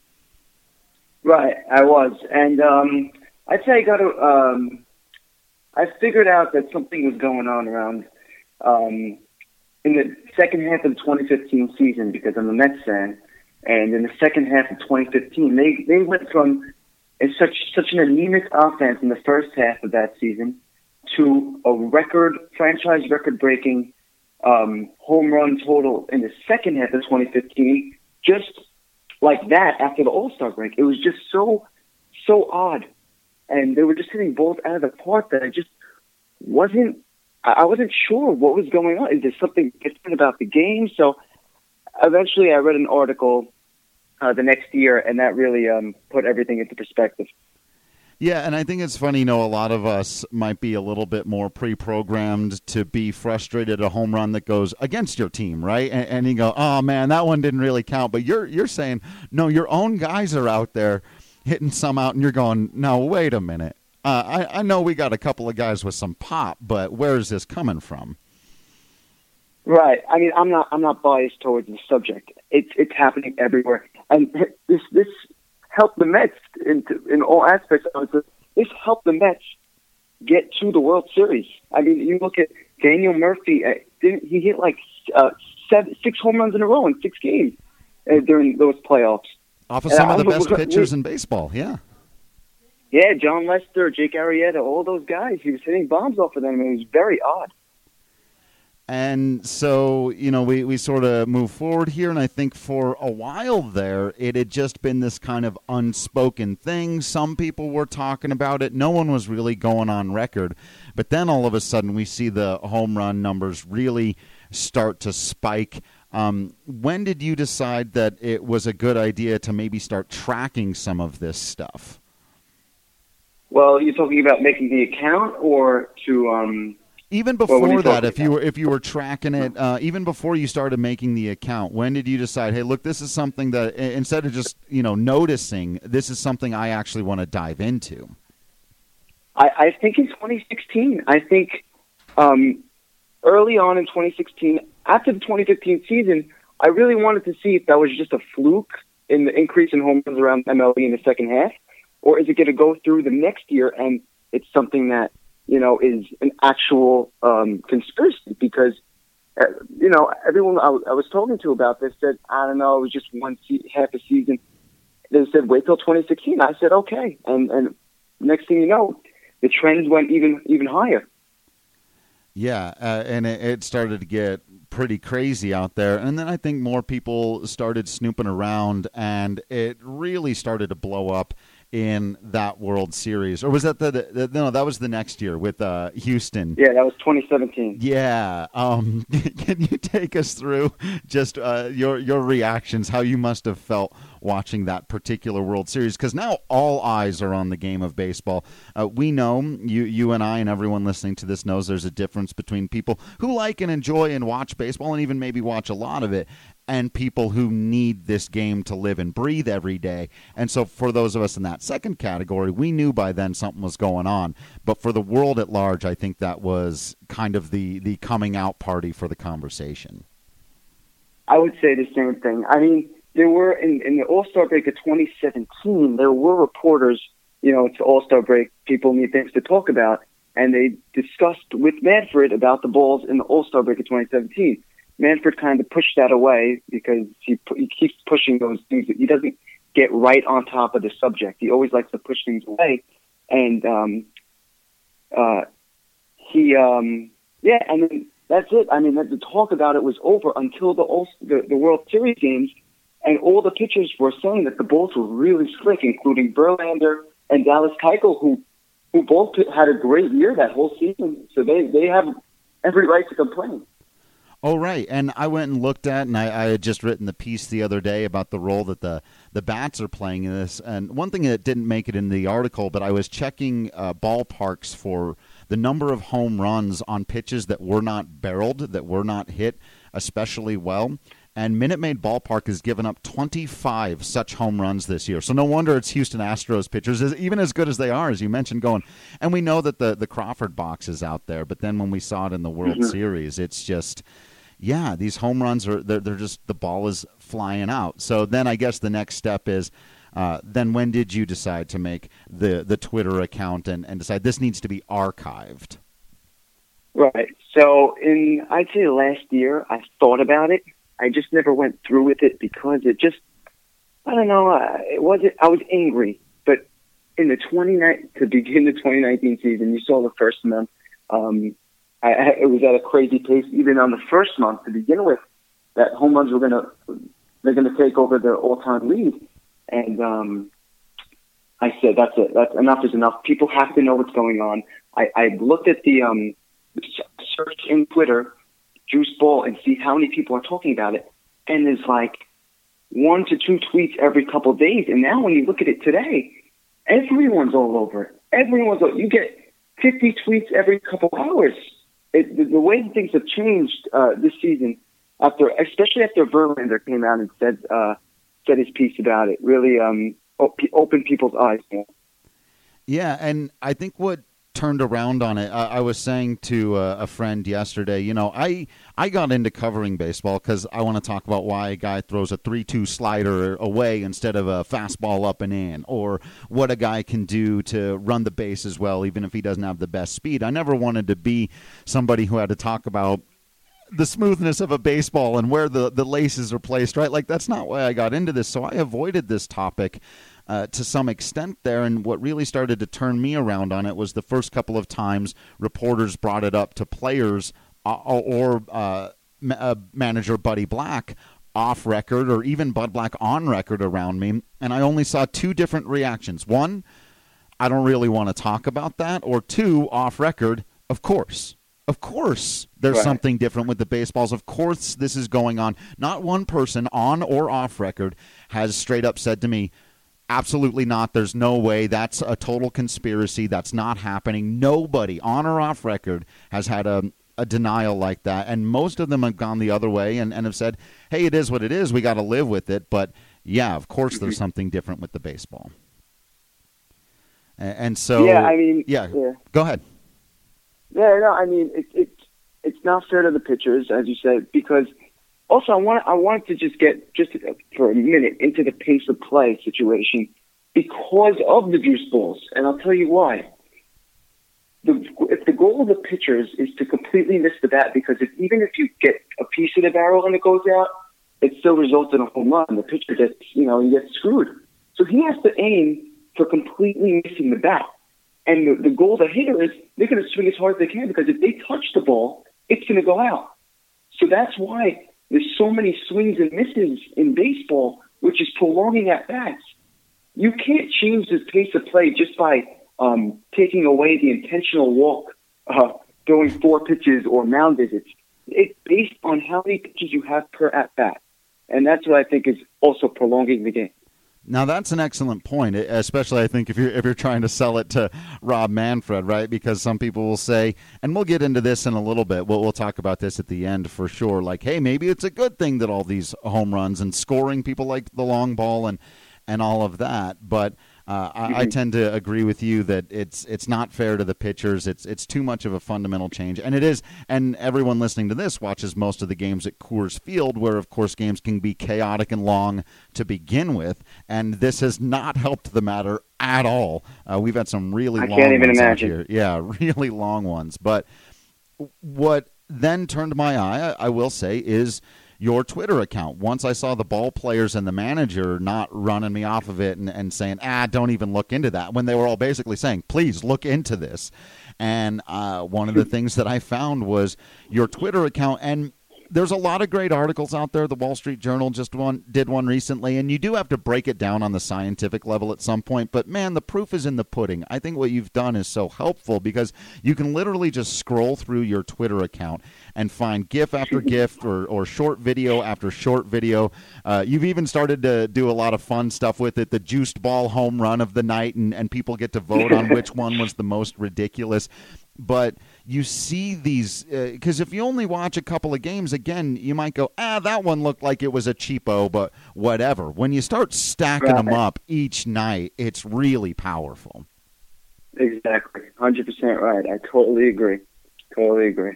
Right, I was, and um, I'd say I got to. Um, I figured out that something was going on around um, in the second half of the twenty fifteen season, because I'm a Mets fan, and in the second half of twenty fifteen, they they went from a, such such an anemic offense in the first half of that season to a record franchise record breaking um, home run total in the second half of twenty fifteen. Just like that after the All-Star break. It was just so, so odd. And they were just hitting balls out of the park that I just wasn't, I wasn't sure what was going on. Is there something different about the game? So eventually I read an article uh, the next year, and that really um, put everything into perspective. Yeah, and I think it's funny, you know, a lot of us might be a little bit more pre-programmed to be frustrated at a home run that goes against your team, right? And, and you go, oh, man, that one didn't really count. But you're you're saying, no, your own guys are out there hitting some out, and you're going, no, wait a minute. Uh, I, I know we got a couple of guys with some pop, but where is this coming from? Right. I mean, I'm not I'm not biased towards the subject. It's it's happening everywhere. And this this helped the Mets in, in all aspects. This helped the Mets get to the World Series. I mean, you look at Daniel Murphy. Uh, didn't, he hit like uh, seven, six home runs in a row in six games uh, during those playoffs. Off of some uh, of the best we, pitchers in baseball, yeah. Yeah, John Lester, Jake Arrieta, all those guys. He was hitting bombs off of them. It was very odd. And so, you know, we, we sort of move forward here, and I think for a while there, it had just been this kind of unspoken thing. Some people were talking about it. No one was really going on record. But then all of a sudden, we see the home run numbers really start to spike. Um, when did you decide that it was a good idea to maybe start tracking some of this stuff? Well, you're talking about making the account or to... Um Even before that, if you were if you were tracking it, uh, even before you started making the account, when did you decide, hey, look, this is something that instead of just you know noticing, this is something I actually want to dive into? I, I think in twenty sixteen. I think um, early on in twenty sixteen, after the twenty fifteen season, I really wanted to see if that was just a fluke in the increase in home runs around M L B in the second half, or is it going to go through the next year and it's something that you know, is an actual um, conspiracy because, uh, you know, everyone I, w- I was talking to about this said, I don't know, it was just one se- half a season. They said, wait till twenty sixteen. I said, okay. And and next thing you know, the trends went even even higher. Yeah, uh, and it, it started to get pretty crazy out there. And then I think more people started snooping around, and it really started to blow up in that World Series. Or was that the, the no, that was the next year with uh, Houston. Yeah, that was twenty seventeen. Yeah. Um, can you take us through just uh, your your reactions, how you must have felt watching that particular World Series? Because now all eyes are on the game of baseball. Uh, we know, you you and I and everyone listening to this knows there's a difference between people who like and enjoy and watch baseball and even maybe watch a lot of it, and people who need this game to live and breathe every day. And so for those of us in that second category, we knew by then something was going on. But for the world at large, I think that was kind of the, the coming out party for the conversation. I would say the same thing. I mean, there were, in, in the All-Star break of twenty seventeen, there were reporters, you know, it's All-Star break, people need things to talk about, and they discussed with Manfred about the balls in the All-Star break of twenty seventeen. Manfred kind of pushed that away because he, he keeps pushing those things. He doesn't get right on top of the subject. He always likes to push things away. And um, uh, he, um, yeah, I mean, that's it. I mean, the talk about it was over until the, All- the, the World Series games, and all the pitchers were saying that the balls were really slick, including Verlander and Dallas Keuchel, who, who both had a great year that whole season. So they, they have every right to complain. Oh, right. And I went and looked at, and I, I had just written the piece the other day about the role that the, the bats are playing in this. And one thing that didn't make it in the article, but I was checking uh, ballparks for the number of home runs on pitches that were not barreled, that were not hit especially well. And Minute Maid Ballpark has given up twenty-five such home runs this year. So no wonder it's Houston Astros pitchers, even as good as they are, as you mentioned, going. And we know that the, the Crawford box is out there. But then when we saw it in the World mm-hmm. Series, it's just, yeah, these home runs, are they're, they're just, the ball is flying out. So then I guess the next step is, uh, then when did you decide to make the, the Twitter account and, and decide this needs to be archived? Right. So in, I'd say last year, I thought about it. I just never went through with it because it just, I don't know, uh, it wasn't, I was angry. But in the twenty to begin the twenty nineteen season, you saw the first month, um, I, I, it was at a crazy pace. Even on the first month to begin with, that home runs were going to, they're going to take over the all-time lead. And um, I said, that's it. That's enough is enough. People have to know what's going on. I, I looked at the um, search in Twitter, Juice Ball, and see how many people are talking about it. And there's like one to two tweets every couple of days. And now when you look at it today, everyone's all over it. Everyone's all, you get fifty tweets every couple of hours. It, the, the way things have changed uh, this season, after, especially after Verlander came out and said uh, said his piece about it, really um, op- opened people's eyes more. Yeah, and I think what turned around on it, I, I was saying to uh, a friend yesterday, you know, I, I got into covering baseball because I want to talk about why a guy throws a three two slider away instead of a fastball up and in, or what a guy can do to run the bases well even if he doesn't have the best speed. I never wanted to be somebody who had to talk about the smoothness of a baseball and where the, the laces are placed, right? Like, that's not why I got into this, so I avoided this topic Uh, to some extent there, and what really started to turn me around on it was the first couple of times reporters brought it up to players uh, or uh, ma- uh, manager Buddy Black off record, or even Bud Black on record around me, and I only saw two different reactions. One, I don't really want to talk about that, or two, off record, of course. Of course there's right. something different with the baseballs. Of course this is going on. Not one person on or off record has straight up said to me, absolutely not. There's no way. That's a total conspiracy. That's not happening. Nobody on or off record has had a, a denial like that. And most of them have gone the other way and, and have said, hey, it is what it is. We got to live with it. But, yeah, of course there's something different with the baseball. And, and so, yeah, I mean, yeah, yeah. Go ahead. Yeah, no, I mean, it, it, it's not fair to the pitchers, as you said, because also, I want I wanted to just get, just for a minute, into the pace of play situation because of the juice balls, and I'll tell you why. The, if the goal of the pitchers is to completely miss the bat, because if, even if you get a piece of the barrel and it goes out, it still results in a home run. The pitcher gets, you know, he gets screwed. So he has to aim for completely missing the bat. And the, the goal of the hitter is they're going to swing as hard as they can, because if they touch the ball, it's going to go out. So that's why there's so many swings and misses in baseball, which is prolonging at bats. You can't change the pace of play just by um, taking away the intentional walk uh, during four pitches or mound visits. It's based on how many pitches you have per at bat, and that's what I think is also prolonging the game. Now that's an excellent point, especially I think if you're if you're trying to sell it to Rob Manfred, right? Because some people will say, and we'll get into this in a little bit. We'll we'll talk about this at the end for sure. Like, hey, maybe it's a good thing that all these home runs and scoring people like the long ball and and all of that. But uh, I, I tend to agree with you that it's it's not fair to the pitchers. It's it's too much of a fundamental change, and it is. And everyone listening to this watches most of the games at Coors Field, where of course games can be chaotic and long to begin with, and this has not helped the matter at all. Uh, we've had some really I long can't even ones imagine. out here. Yeah, really long ones. But what then turned my eye, I, I will say, is your Twitter account. Once I saw the ball players and the manager not running me off of it and, and saying, ah, don't even look into that, when they were all basically saying, please look into this. And uh, one of the things that I found was your Twitter account, and there's a lot of great articles out there. The Wall Street Journal just one did one recently, and you do have to break it down on the scientific level at some point. But, man, the proof is in the pudding. I think what you've done is so helpful because you can literally just scroll through your Twitter account and find GIF after GIF or, or short video after short video. Uh, you've even started to do a lot of fun stuff with it, the juiced ball home run of the night, and, and people get to vote on which one was the most ridiculous. But you see these, because uh, if you only watch a couple of games, again, you might go, ah, that one looked like it was a cheapo, but whatever. When you start stacking right. them up each night, it's really powerful. Exactly. one hundred percent right. I totally agree. Totally agree.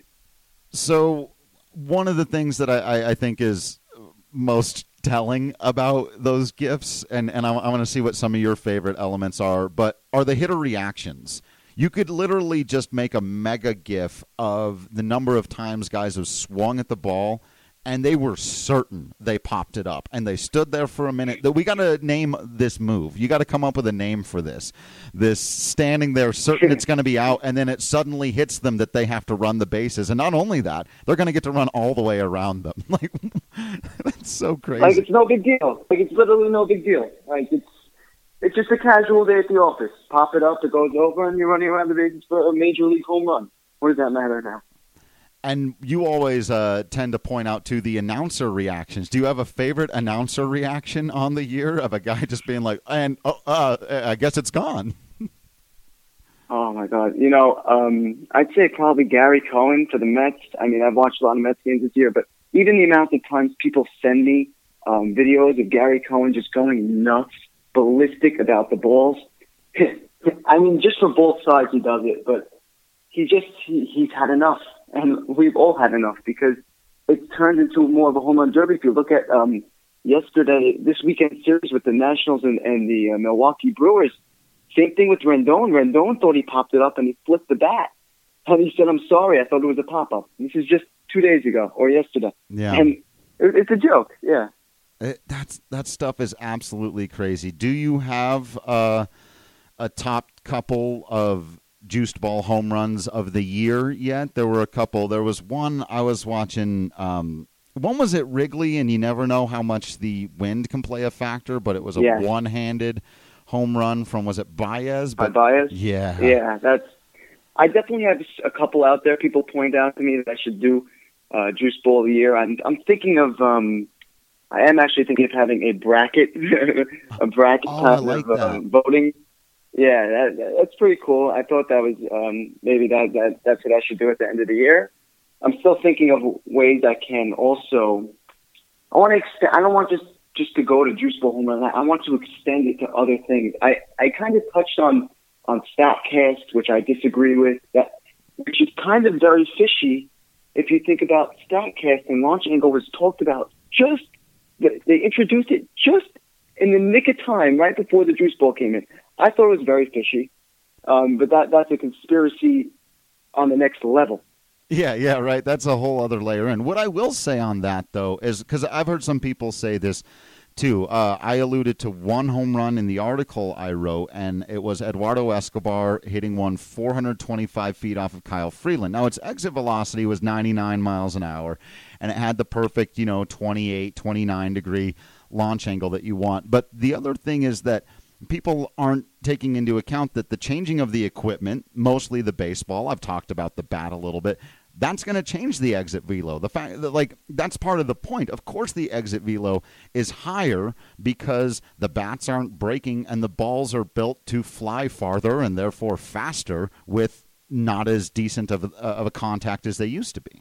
So one of the things that I, I think is most telling about those GIFs, and, and I, I want to see what some of your favorite elements are, but are the hitter reactions. You could literally just make a mega GIF of the number of times guys have swung at the ball, and they were certain they popped it up. And they stood there for a minute. We got to name this move. You got to come up with a name for this. This standing there certain it's going to be out, and then it suddenly hits them that they have to run the bases. And not only that, they're going to get to run all the way around them. Like, that's so crazy. Like, it's no big deal. Like, it's literally no big deal. Like, it's It's just a casual day at the office. Pop it up, it goes over, and you're running around the bases for a major league home run. What does that matter now? And you always uh, tend to point out, to the announcer reactions. Do you have a favorite announcer reaction on the year of a guy just being like, and oh, uh, I guess it's gone? Oh, my God. You know, um, I'd say probably Gary Cohen for the Mets. I mean, I've watched a lot of Mets games this year, but even the amount of times people send me um, videos of Gary Cohen just going nuts, ballistic about the balls. I mean, just for both sides he does it, but he just, he, he's had enough. And we've all had enough because it's turned into more of a home run derby. If you look at um, yesterday, this weekend series with the Nationals and, and the uh, Milwaukee Brewers, same thing with Rendon. Rendon thought he popped it up and he flipped the bat. And he said, I'm sorry, I thought it was a pop-up. This is just two days ago or yesterday. Yeah. And it, it's a joke, yeah. It, that's that stuff is absolutely crazy. Do you have uh, a top couple of juiced ball home runs of the year yet? There were a couple. There was one I was watching. Um, one was at Wrigley, and you never know how much the wind can play a factor, but it was a yeah. one-handed home run from, was it Baez? But, Baez? Yeah. Yeah, that's. I definitely have a couple out there. People point out to me that I should do uh, juiced ball of the year. I'm, I'm thinking of. Um, I am actually thinking of having a bracket, a bracket oh, type I like of uh, voting. Yeah, that, that's pretty cool. I thought that was um, maybe that, that that's what I should do at the end of the year. I'm still thinking of ways I can also. I want to extend. I don't want just just to go to juice ball home run. I want to extend it to other things. I, I kind of touched on on Statcast, which I disagree with. That which is kind of very fishy. If you think about Statcast and launch angle was talked about just. They introduced it just in the nick of time, right before the juice ball came in. I thought it was very fishy, um, but that that's a conspiracy on the next level. Yeah, yeah, right. That's a whole other layer. And what I will say on that, though, is because I've heard some people say this too. Uh, I alluded to one home run in the article I wrote, and it was Eduardo Escobar hitting one four hundred twenty-five feet off of Kyle Freeland. Now, its exit velocity was ninety-nine miles an hour, and it had the perfect, you know, twenty-eight, twenty-nine degree launch angle that you want. But the other thing is that people aren't taking into account that the changing of the equipment, mostly the baseball, I've talked about the bat a little bit, that's going to change the exit velo. The fact that, like, that's part of the point. Of course, the exit velo is higher because the bats aren't breaking and the balls are built to fly farther and therefore faster with not as decent of a, of a contact as they used to be.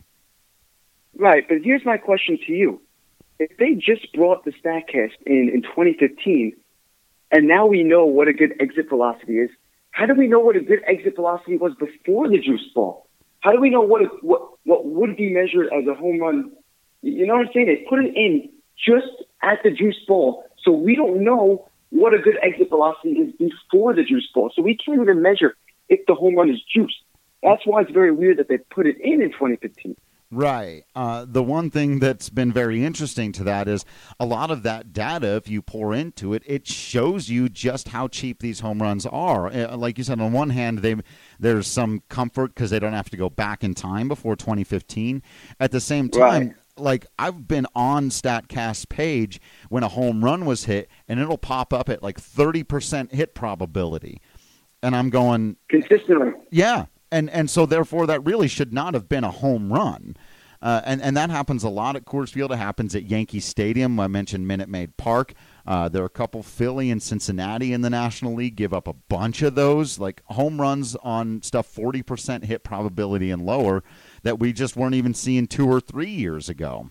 Right, but here's my question to you. If they just brought the StatCast in in twenty fifteen, and now we know what a good exit velocity is, how do we know what a good exit velocity was before the juice ball? How do we know what, what what would be measured as a home run? You know what I'm saying? They put it in just at the juice ball, so we don't know what a good exit velocity is before the juice ball. So we can't even measure if the home run is juiced. That's why it's very weird that they put it in in twenty fifteen. Right. Uh, the one thing that's been very interesting to that is a lot of that data, if you pour into it, it shows you just how cheap these home runs are. Uh, like you said, on one hand, they there's some comfort because they don't have to go back in time before twenty fifteen. At the same time, right. Like I've been on StatCast's page when a home run was hit, and it'll pop up at like thirty percent hit probability. And I'm going... Consistently. Yeah. And and so, therefore, that really should not have been a home run. Uh, and, and that happens a lot at Coors Field. It happens at Yankee Stadium. I mentioned Minute Maid Park. Uh, there are a couple, Philly and Cincinnati in the National League give up a bunch of those, like home runs on stuff forty percent hit probability and lower that we just weren't even seeing two or three years ago.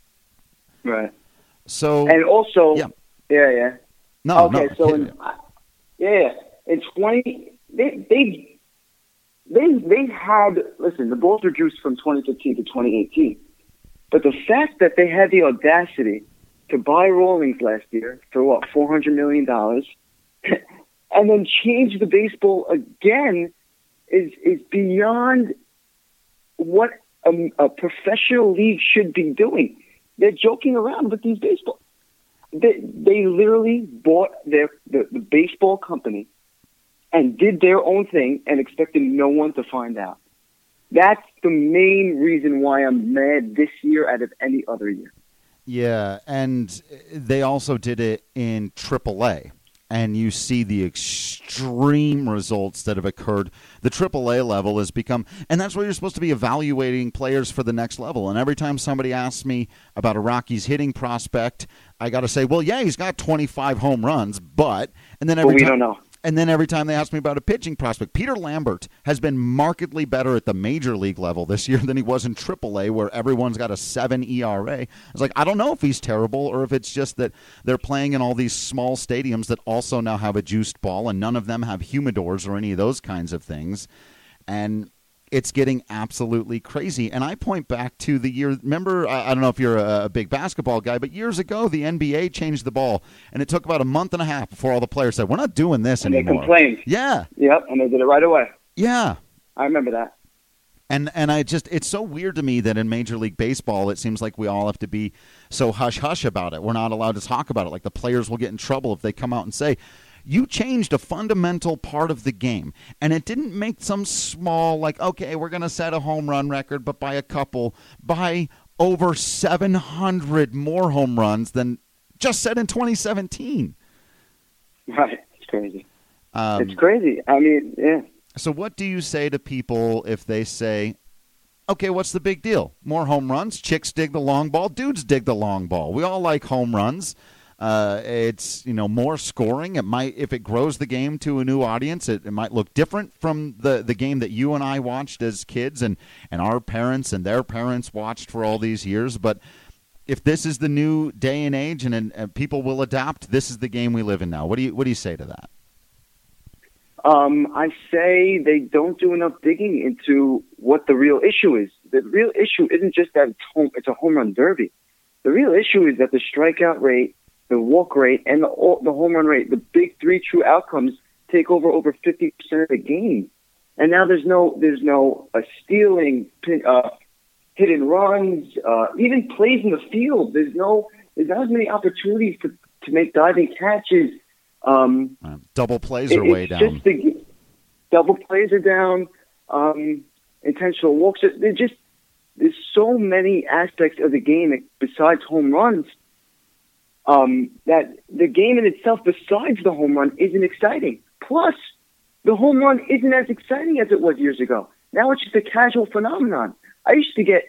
Right. So And also, yeah, yeah, yeah. No, okay, no. so, in, yeah, in twenty, they, they, They they had, listen, the balls were juiced from twenty fifteen to twenty eighteen. But the fact that they had the audacity to buy Rawlings last year for, what, four hundred million dollars, and then change the baseball again is is beyond what a, a professional league should be doing. They're joking around with these baseball. They, they literally bought their the, the baseball company and did their own thing and expected no one to find out. That's the main reason why I'm mad this year out of any other year. Yeah, and they also did it in triple A, and you see the extreme results that have occurred. The triple A level has become, and that's where you're supposed to be evaluating players for the next level. And every time somebody asks me about a Rockies hitting prospect, I got to say, well, yeah, he's got twenty-five home runs, but, and then every but we time, don't know. And then every time they ask me about a pitching prospect, Peter Lambert has been markedly better at the major league level this year than he was in triple A, where everyone's got a seven E R A. I was like, I don't know if he's terrible or if it's just that they're playing in all these small stadiums that also now have a juiced ball, and none of them have humidors or any of those kinds of things. And it's getting absolutely crazy. And I point back to the year, remember, I, I don't know if you're a, a big basketball guy, but years ago, the N B A changed the ball, and it took about a month and a half before all the players said, we're not doing this and anymore. They complained. Yeah. Yep, and they did it right away. Yeah. I remember that. And and I just, it's so weird to me that in Major League Baseball, it seems like we all have to be so hush-hush about it. We're not allowed to talk about it. Like the players will get in trouble if they come out and say, you changed a fundamental part of the game, and it didn't make some small, like, okay, we're going to set a home run record, but by a couple, by over seven hundred more home runs than just set in twenty seventeen. Right. It's crazy. Um, it's crazy. I mean, yeah. So what do you say to people if they say, okay, what's the big deal? More home runs? Chicks dig the long ball. Dudes dig the long ball. We all like home runs. Uh, it's, you know, more scoring. It might, if it grows the game to a new audience, it, it might look different from the, the game that you and I watched as kids and, and our parents and their parents watched for all these years. But if this is the new day and age and, and, and people will adapt, this is the game we live in now. What do you, what do you say to that? Um, I say they don't do enough digging into what the real issue is. The real issue isn't just that it's, home, it's a home run derby. The real issue is that the strikeout rate, the walk rate, and the, the home run rate, the big three true outcomes, take over over fifty percent of the game. And now there's no there's no uh, stealing, uh, hidden runs, uh, even plays in the field. There's no there's not as many opportunities to to make diving catches. Um, uh, double plays it, are way down. Just the, double plays are down. Um, intentional walks. They're just there's so many aspects of the game besides home runs um, that the game in itself, besides the home run, isn't exciting. Plus, the home run isn't as exciting as it was years ago. Now it's just a casual phenomenon. I used to get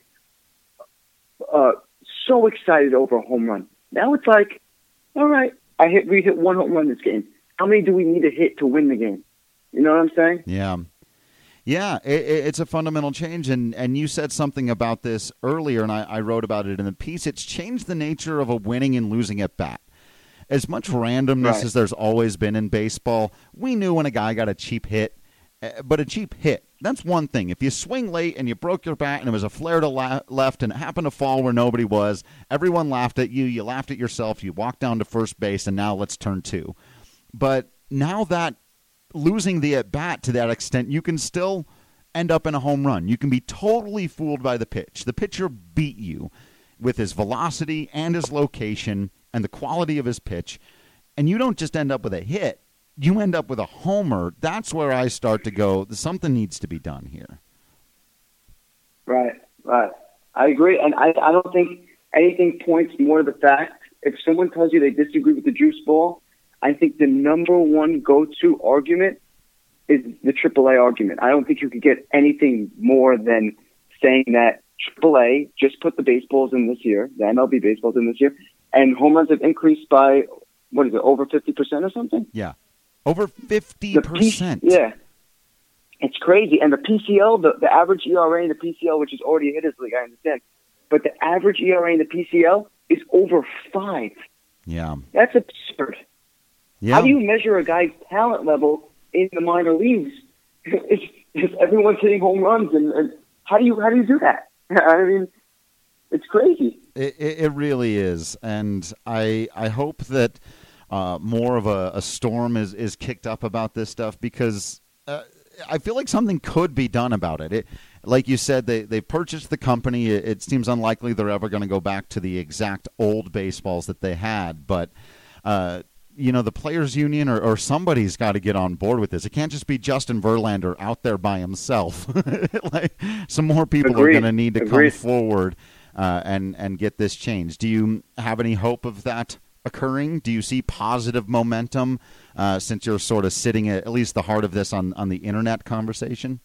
uh, so excited over a home run. Now it's like, all right, I hit we hit one home run this game. How many do we need to hit to win the game? You know what I'm saying? Yeah. Yeah, it, it's a fundamental change, and, and you said something about this earlier, and I, I wrote about it in the piece. It's changed the nature of a winning and losing at bat. As much randomness right. as there's always been in baseball, we knew when a guy got a cheap hit, but a cheap hit, that's one thing. If you swing late and you broke your bat and it was a flare to la- left and it happened to fall where nobody was, everyone laughed at you, you laughed at yourself, you walked down to first base, and now let's turn two. But now that losing the at-bat to that extent, you can still end up in a home run. You can be totally fooled by the pitch. The pitcher beat you with his velocity and his location and the quality of his pitch, and you don't just end up with a hit. You end up with a homer. That's where I start to go, something needs to be done here. Right, right. I agree, and I, I don't think anything points more to the fact, if someone tells you they disagree with the juice ball, I think the number one go-to argument is the triple A argument. I don't think you could get anything more than saying that triple A just put the baseballs in this year, the M L B baseballs in this year, and home runs have increased by, what is it, over fifty percent or something? Yeah, over fifty percent. P- yeah, it's crazy. And the P C L, the, the average E R A in the P C L, which is already a hitters league, I understand, but the average E R A in the P C L is over five. Yeah. That's absurd. Yeah. How do you measure a guy's talent level in the minor leagues if, if everyone's hitting home runs? And, and how do you how do you do that? I mean, it's crazy. It, it really is, and I I hope that uh, more of a, a storm is, is kicked up about this stuff, because uh, I feel like something could be done about it. It like you said, they they purchased the company. It, it seems unlikely they're ever going to go back to the exact old baseballs that they had, but. Uh, You know, the players' union or, or somebody's got to get on board with this. It can't just be Justin Verlander out there by himself. Like, some more people Agreed. are going to need to Agreed. come forward uh, and, and get this changed. Do you have any hope of that occurring? Do you see positive momentum uh, since you're sort of sitting at, at least the heart of this on, on the internet conversation?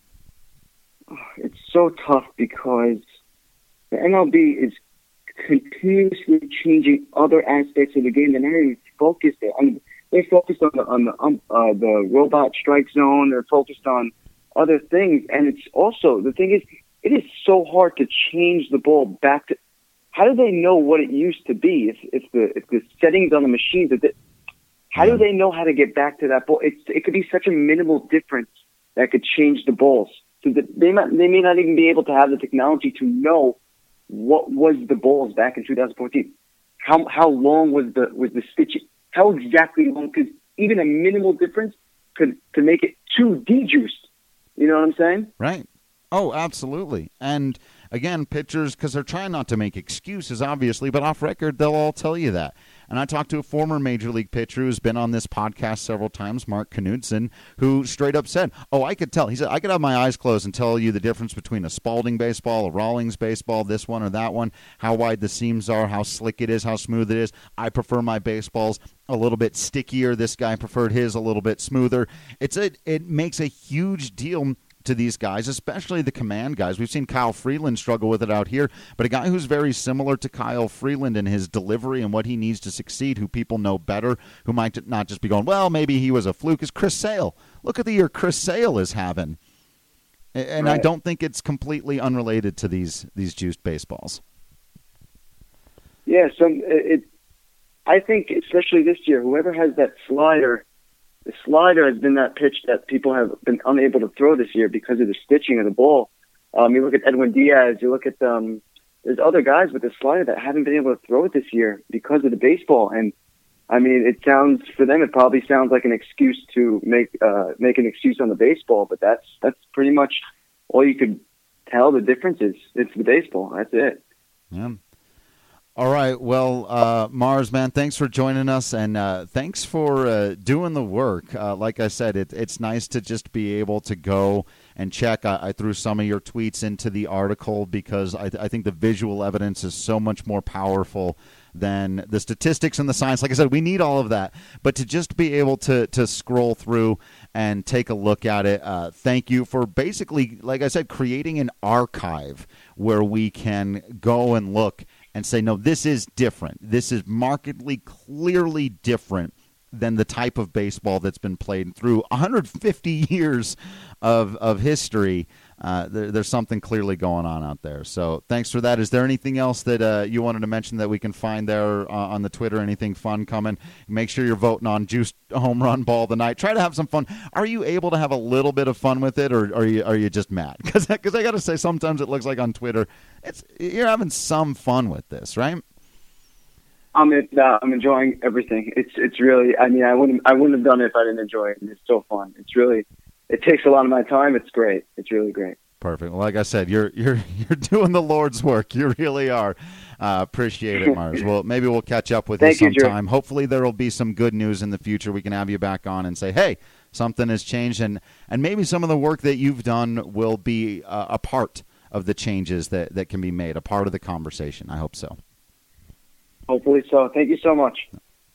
It's so tough because the M L B is continuously changing other aspects of the game. They're not even focused there. I mean, they're focused on the on the um, uh, the robot strike zone. They're focused on other things, and it's also the thing is it is so hard to change the ball back to. How do they know what it used to be? If if the if the settings on the machines, that the, how do they know how to get back to that ball? It's it could be such a minimal difference that could change the balls. So that they might they may not even be able to have the technology to know what was the balls back in two thousand fourteen. How how long was the was the stitching? How exactly long? Because even a minimal difference could could make it too de-juiced. You know what I'm saying? Right. Oh, absolutely. And again, pitchers, because they're trying not to make excuses, obviously, but off record, they'll all tell you that. And I talked to a former Major League pitcher who's been on this podcast several times, Mark Knudsen, who straight up said, oh, I could tell. He said, I could have my eyes closed and tell you the difference between a Spalding baseball, a Rawlings baseball, this one or that one, how wide the seams are, how slick it is, how smooth it is. I prefer my baseballs a little bit stickier. This guy preferred his a little bit smoother. It's a, it makes a huge deal to these guys, especially the command guys. We've seen Kyle Freeland struggle with it out here, but a guy who's very similar to Kyle Freeland in his delivery and what he needs to succeed, who people know better, who might not just be going, well, maybe he was a fluke, is Chris Sale. Look at the year Chris Sale is having. And right. I don't think it's completely unrelated to these these juiced baseballs. Yeah, some it. I think especially this year, whoever has that slider, the slider has been that pitch that people have been unable to throw this year because of the stitching of the ball. Um, you look at Edwin Diaz, you look at um, there's other guys with the slider that haven't been able to throw it this year because of the baseball. And I mean, it sounds for them, it probably sounds like an excuse to make uh, make an excuse on the baseball, but that's that's pretty much all you could tell the difference is. It's the baseball. That's it. Yeah. All right. Well, uh, Mars, man, thanks for joining us, and uh, thanks for uh, doing the work. Uh, like I said, it, it's nice to just be able to go and check. I, I threw some of your tweets into the article because I, I think the visual evidence is so much more powerful than the statistics and the science. Like I said, we need all of that. But to just be able to, to scroll through and take a look at it, uh, thank you for basically, like I said, creating an archive where we can go and look and say, no, this is different. This is markedly, clearly different than the type of baseball that's been played through one hundred fifty years of of history. Uh, there, there's something clearly going on out there. So thanks for that. Is there anything else that uh, you wanted to mention that we can find there uh, on the Twitter? Anything fun coming? Make sure you're voting on Juice Home Run Ball of the Night. Try to have some fun. Are you able to have a little bit of fun with it, or are you are you just mad? Because because I got to say, sometimes it looks like on Twitter, it's you're having some fun with this, right? I'm uh, I'm enjoying everything. It's it's really. I mean, I wouldn't I wouldn't have done it if I didn't enjoy it. It's so fun. It's really. It takes a lot of my time. It's great. It's really great. Perfect. Well, like I said, you're you're you're doing the Lord's work. You really are. Uh, appreciate it, Mars. Well, maybe we'll catch up with Thank you you, sometime. Drew. Hopefully, there will be some good news in the future. We can have you back on and say, hey, something has changed, and and maybe some of the work that you've done will be uh, a part of the changes that that can be made, a part of the conversation. I hope so. Hopefully so. Thank you so much.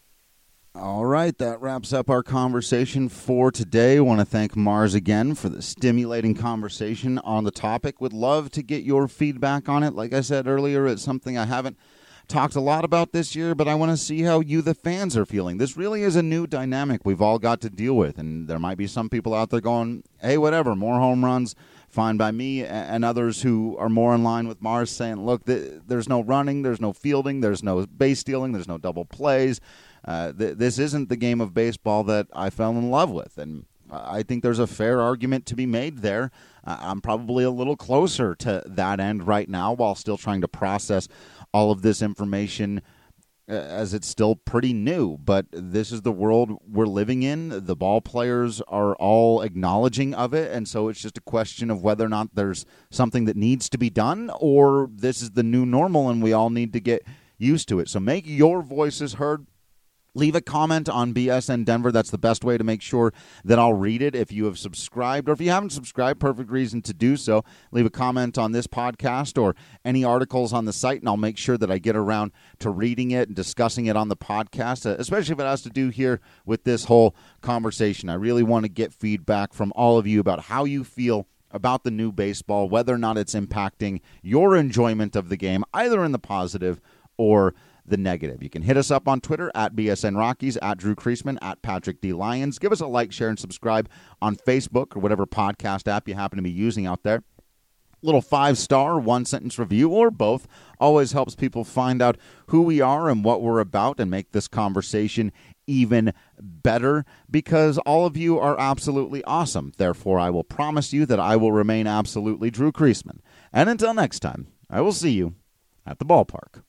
All right, that wraps up our conversation for today. I want to thank Mars again for the stimulating conversation on the topic. Would love to get your feedback on it. Like I said earlier, it's something I haven't talked a lot about this year, but I want to see how you, the fans, are feeling. This really is a new dynamic we've all got to deal with, and there might be some people out there going, hey, whatever, more home runs, fine by me, and others who are more in line with Mars saying, look, th- there's no running, there's no fielding, there's no base stealing, there's no double plays. Uh, th- this isn't the game of baseball that I fell in love with, and I think there's a fair argument to be made there. Uh, I'm probably a little closer to that end right now while still trying to process all of this information uh, as it's still pretty new. But this is the world we're living in. The ball players are all acknowledging of it, and so it's just a question of whether or not there's something that needs to be done, or this is the new normal and we all need to get used to it. So make your voices heard. Leave a comment on B S N Denver. That's the best way to make sure that I'll read it. If you have subscribed, or if you haven't subscribed, perfect reason to do so. Leave a comment on this podcast or any articles on the site, and I'll make sure that I get around to reading it and discussing it on the podcast, especially if it has to do here with this whole conversation. I really want to get feedback from all of you about how you feel about the new baseball, whether or not it's impacting your enjoyment of the game, either in the positive or the negative. You can hit us up on Twitter at B S N Rockies, at Drew Creasman, at Patrick D. Lyons. Give us a like, share, and subscribe on Facebook or whatever podcast app you happen to be using out there. Little five-star, one-sentence review, or both, always helps people find out who we are and what we're about and make this conversation even better, because all of you are absolutely awesome. Therefore, I will promise you that I will remain absolutely Drew Creasman. And until next time, I will see you at the ballpark.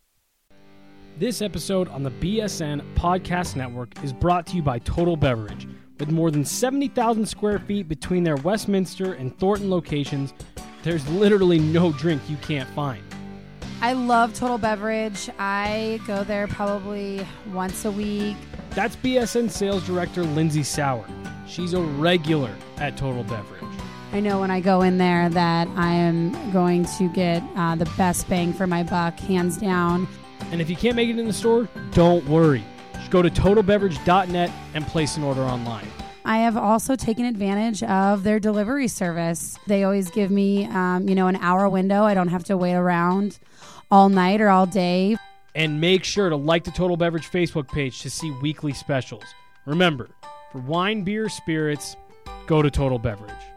This episode on the B S N Podcast Network is brought to you by Total Beverage. With more than seventy thousand square feet between their Westminster and Thornton locations, there's literally no drink you can't find. I love Total Beverage. I go there probably once a week. That's B S N Sales Director Lindsay Sauer. She's a regular at Total Beverage. I know when I go in there that I am going to get uh, the best bang for my buck, hands down. And if you can't make it in the store, don't worry. Just go to total beverage dot net and place an order online. I have also taken advantage of their delivery service. They always give me, um, you know, an hour window. I don't have to wait around all night or all day. And make sure to like the Total Beverage Facebook page to see weekly specials. Remember, for wine, beer, spirits, go to Total Beverage.